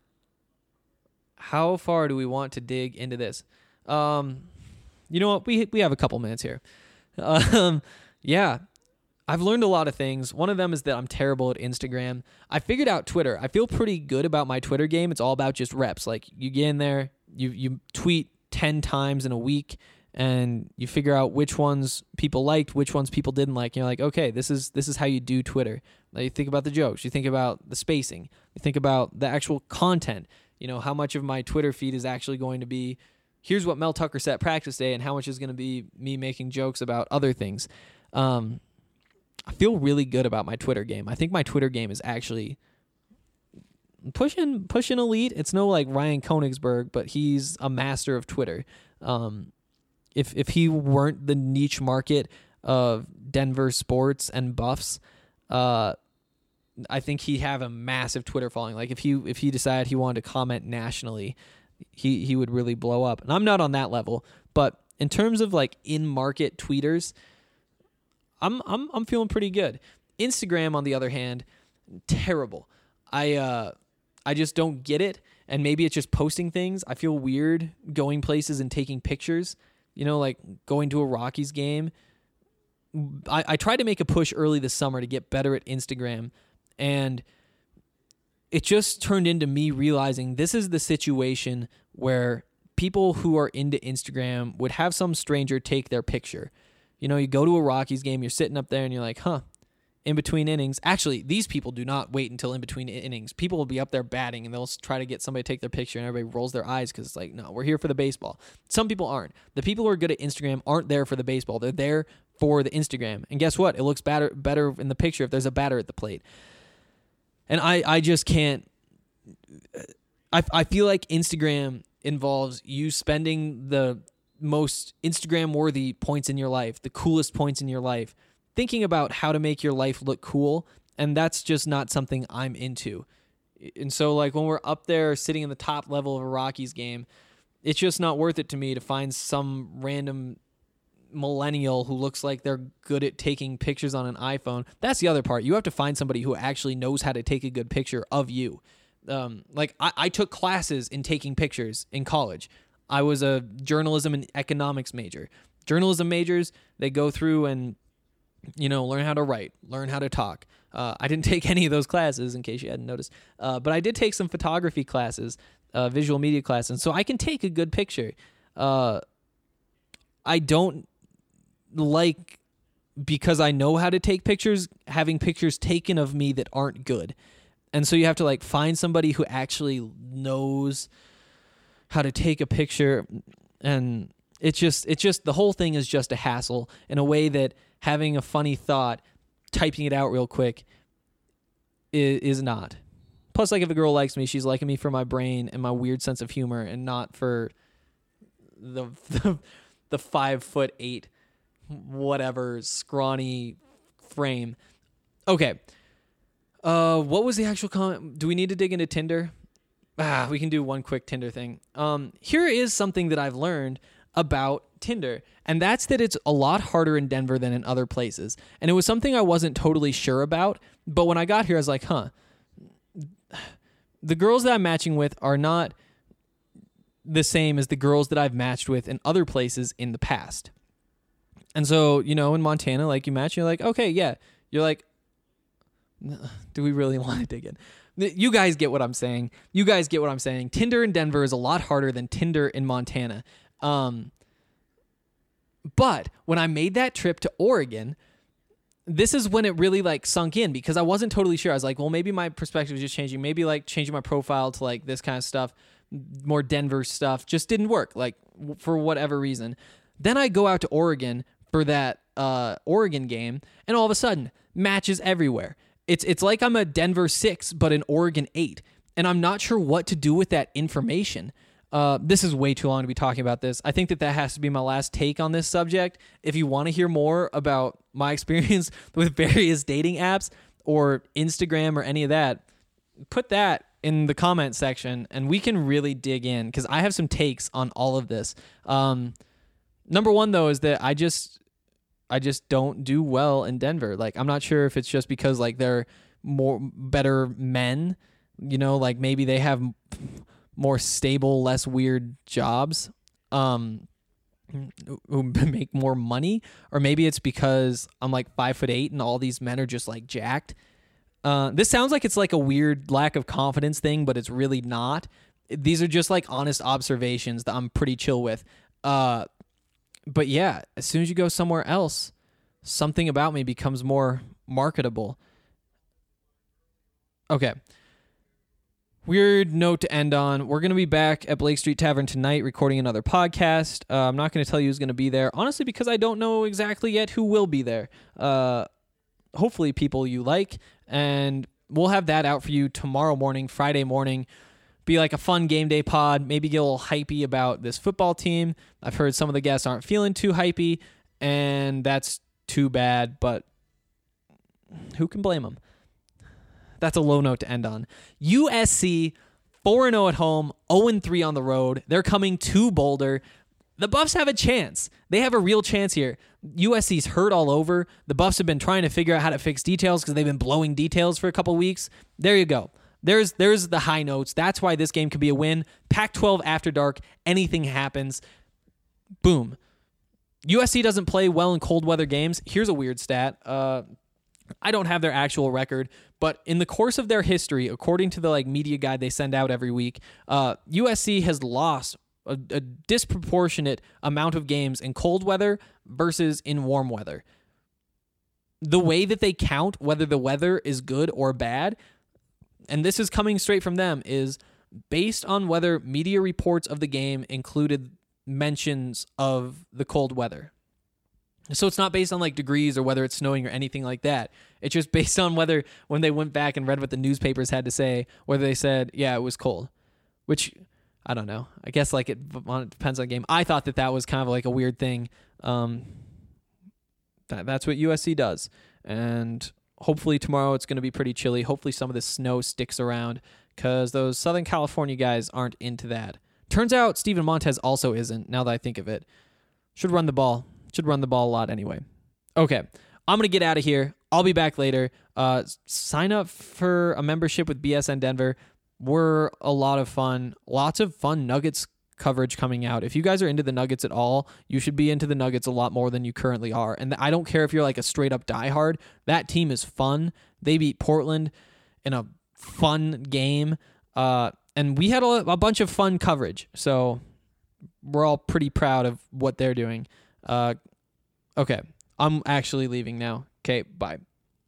How far do we want to dig into this? Um, you know what? We we have a couple minutes here. Um, yeah, I've learned a lot of things. One of them is that I'm terrible at Instagram. I figured out Twitter. I feel pretty good about my Twitter game. It's all about just reps. Like you get in there, you you tweet ten times in a week, and you figure out which ones people liked, which ones people didn't like. And you're like, okay, this is this is how you do Twitter. Now you think about the jokes, you think about the spacing, you think about the actual content. You know, how much of my Twitter feed is actually going to be, here's what Mel Tucker said at practice day, and how much is going to be me making jokes about other things. Um, I feel really good about my Twitter game. I think my Twitter game is actually pushing pushing elite. It's no like Ryan Koenigsberg, but he's a master of Twitter. Um, if if he weren't the niche market of Denver sports and Buffs, uh, I think he'd have a massive Twitter following. Like if he if he decided he wanted to comment nationally, he he would really blow up. And I'm not on that level, but in terms of like in-market tweeters, I'm I'm I'm feeling pretty good. Instagram, on the other hand, terrible. I uh I just don't get it, and maybe it's just posting things. I feel weird going places and taking pictures. You know, like going to a Rockies game. I, I tried to make a push early this summer to get better at Instagram, and it just turned into me realizing this is the situation where people who are into Instagram would have some stranger take their picture. You know, you go to a Rockies game, you're sitting up there and you're like, huh, in between innings. Actually, these people do not wait until in between innings. People will be up there batting and they'll try to get somebody to take their picture, and everybody rolls their eyes because it's like, no, we're here for the baseball. Some people aren't. The people who are good at Instagram aren't there for the baseball. They're there for the Instagram. And guess what? It looks better better in the picture if there's a batter at the plate. And I, I just can't. I, I feel like Instagram involves you spending the most Instagram-worthy points in your life, the coolest points in your life, thinking about how to make your life look cool, and that's just not something I'm into. And so, like, when we're up there sitting in the top level of a Rockies game, it's just not worth it to me to find some random millennial who looks like they're good at taking pictures on an iPhone. That's the other part. You have to find somebody who actually knows how to take a good picture of you. Um, like, I, I took classes in taking pictures in college. I was a journalism and economics major. Journalism majors, they go through and, you know, learn how to write, learn how to talk. Uh, I didn't take any of those classes, in case you hadn't noticed. Uh, but I did take some photography classes, uh, visual media classes, and so I can take a good picture. Uh, I don't like, because I know how to take pictures, having pictures taken of me that aren't good. And so you have to, like, find somebody who actually knows how to take a picture, and it's just, it's just, the whole thing is just a hassle in a way that having a funny thought, typing it out real quick is, is not. Plus, like, if a girl likes me, she's liking me for my brain and my weird sense of humor, and not for the the, the five foot eight, whatever, scrawny frame. Okay. Uh, what was the actual comment? Do we need to dig into Tinder? Ah, we can do one quick Tinder thing. Um, here is something that I've learned about Tinder, and that's that it's a lot harder in Denver than in other places. And it was something I wasn't totally sure about, but when I got here, I was like, huh, the girls that I'm matching with are not the same as the girls that I've matched with in other places in the past. And so, you know, in Montana, like, you match, you're like, okay, yeah. You're like, do we really want to dig in? You guys get what I'm saying. You guys get what I'm saying. Tinder in Denver is a lot harder than Tinder in Montana. Um, but when I made that trip to Oregon, this is when it really, like, sunk in, because I wasn't totally sure. I was like, well, maybe my perspective is just changing. Maybe, like, changing my profile to, like, this kind of stuff, more Denver stuff, just didn't work, like, w- for whatever reason. Then I go out to Oregon for that uh, Oregon game, and all of a sudden, matches everywhere. It's it's like I'm a Denver six, but an Oregon eight, and I'm not sure what to do with that information. Uh, this is way too long to be talking about this. I think that that has to be my last take on this subject. If you want to hear more about my experience with various dating apps or Instagram or any of that, put that in the comment section, and we can really dig in, because I have some takes on all of this. Um, number one, though, is that I just... I just don't do well in Denver. Like, I'm not sure if it's just because, like, they're more better men, you know, like maybe they have more stable, less weird jobs, um, who make more money, or maybe it's because I'm like five foot eight and all these men are just like jacked. Uh, this sounds like it's like a weird lack of confidence thing, but it's really not. These are just like honest observations that I'm pretty chill with. Uh, But yeah, as soon as you go somewhere else, something about me becomes more marketable. Okay. Weird note to end on. We're going to be back at Blake Street Tavern tonight recording another podcast. Uh, I'm not going to tell you who's going to be there, honestly, because I don't know exactly yet who will be there. Uh, hopefully people you like, and we'll have that out for you tomorrow morning, Friday morning. Be like a fun game day pod, maybe get a little hypey about this football team. I've heard some of the guests aren't feeling too hypey, and that's too bad, but who can blame them? That's a low note to end on. U S C, four and oh at home, oh and three on the road. They're coming to Boulder. The Buffs have a chance. They have a real chance here. U S C's hurt all over. The Buffs have been trying to figure out how to fix details because they've been blowing details for a couple weeks. There you go. There's there's the high notes. That's why this game could be a win. Pac twelve after dark. Anything happens. Boom. U S C doesn't play well in cold weather games. Here's a weird stat. Uh, I don't have their actual record, but in the course of their history, according to the like media guide they send out every week, uh, U S C has lost a, a disproportionate amount of games in cold weather versus in warm weather. The way that they count whether the weather is good or bad, and this is coming straight from them, is based on whether media reports of the game included mentions of the cold weather. So it's not based on like degrees or whether it's snowing or anything like that. It's just based on whether when they went back and read what the newspapers had to say, whether they said, yeah, it was cold, which I don't know. I guess like it, it depends on the game. I thought that that was kind of like a weird thing. Um, that, that's what U S C does. And hopefully tomorrow it's going to be pretty chilly. Hopefully some of the snow sticks around because those Southern California guys aren't into that. Turns out Steven Montez also isn't, now that I think of it. Should run the ball. Should run the ball a lot anyway. Okay, I'm going to get out of here. I'll be back later. Uh, sign up for a membership with B S N Denver. We're a lot of fun. Lots of fun Nuggets coverage coming out. If you guys are into the Nuggets at all, you should be into the Nuggets a lot more than you currently are. And I don't care if you're like a straight up diehard. That team is fun. They beat Portland in a fun game. Uh, and we had a, a bunch of fun coverage. So we're all pretty proud of what they're doing. Uh, okay, I'm actually leaving now. Okay, bye.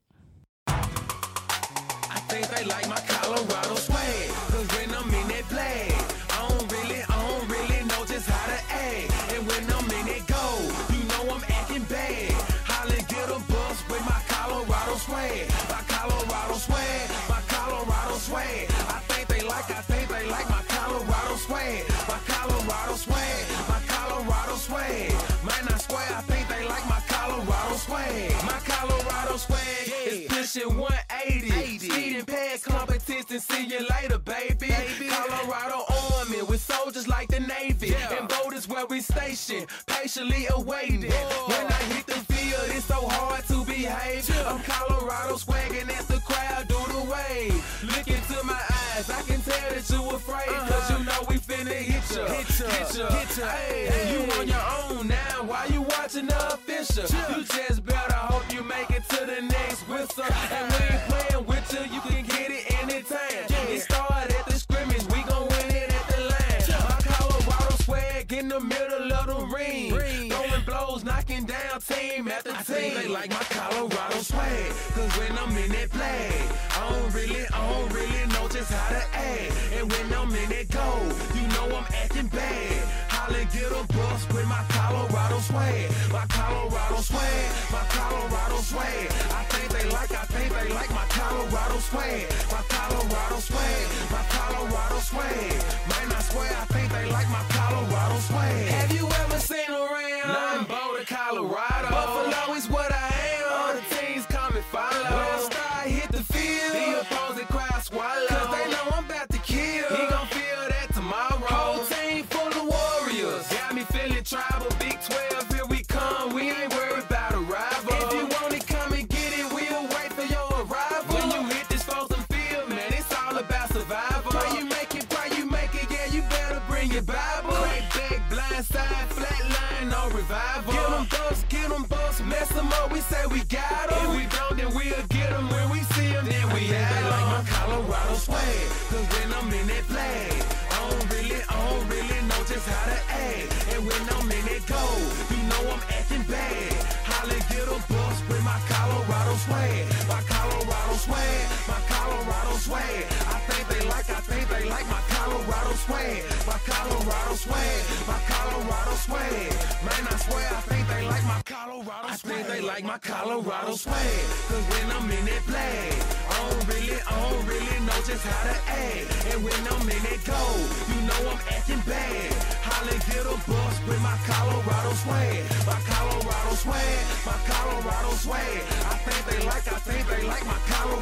I think they like my Colorado swag, cause when I'm in that play, I don't really, I don't really know just how to act. And when I'm in that go, you know I'm acting bad. Holly get a bus with my Colorado swag, my Colorado swag, my Colorado swag. I think they like, I think they like my Colorado swag, my Colorado swag, my Colorado swag. Man, I swear, I think they like my Colorado swag, my Colorado swag is pushing one eighty. Speeding past competition, see you later, baby. baby. Colorado Army with soldiers like the Navy. Yeah. And boat is where we station, patiently awaiting. Whoa. When I hit the field, it's so hard to behave. Yeah. I'm Colorado swagging as the crowd do the wave. Look into my eyes, I can tell that you afraid. Uh-huh. Cause you know we finna hit ya, hit ya, hit ya, hit ya. Hey, hey. You on your own now, why you watching the official? Yeah. You just better hope you make it to the next whistle. And we ain't playing with you, you can get it anytime. Yeah. It started at the scrimmage, we gon' win it at the line. Yeah. My Colorado swag in the middle of the ring. ring. Throwing blows, knocking down team after I team. Think they like my Colorado swag, cause when I'm in that play, I don't really, I don't really know just how to act. And when I'm in that go, you know I'm acting bad. Holly get a bus with my Colorado swag, my Colorado swag, my Colorado swag. I think they like, I think they like my Colorado swag, my Colorado swag, my Colorado swag. Man, I swear, I think they like my Colorado swag. Have you ever seen around? Nothing Boulder, Colorado. Buffalo is what I am. All the teams come and follow. When I start hit the field, the opposing crowd swallow. Cause they know I'm about to kill. He gon' feel that tomorrow. Whole team full of warriors. Got me feeling tribal. Big twelve, here we come. We ain't worried about a rival. If you want it, come and get it. We'll wait for your arrival. When you hit this frozen field, man, it's all about survival. Pray you make it, pray you make it. Yeah, you better bring your Bible. Crack back, blind side, flat line, no revival. Get them bucks, get them bucks, mess them up. We say we got them. If we don't, then we'll get them. When we see them, then we have them. Like my Colorado swag, cause when I'm in that flag, I don't really, I don't really know just how to act. And when I'm in that go, you know I'm acting bad. Holly get a bus with my Colorado swag, my Colorado swag, my Colorado swag. I think they like, I think they like my Colorado swag, my Colorado swag, my Colorado swag. Man, I swear, I think they like my Colorado swag. I think they like my Colorado swag, cause when I'm in that flag, I don't really, I don't really know just how to act. And when I'm in that go, you know I'm acting bad. Holly get a bus with my Colorado swag, my Colorado swag, my Colorado swag. I think they like, I think they like my Colorado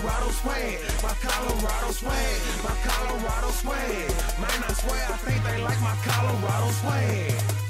Colorado swag, my Colorado swag, my Colorado swag. Man, I swear I think they like my Colorado swag.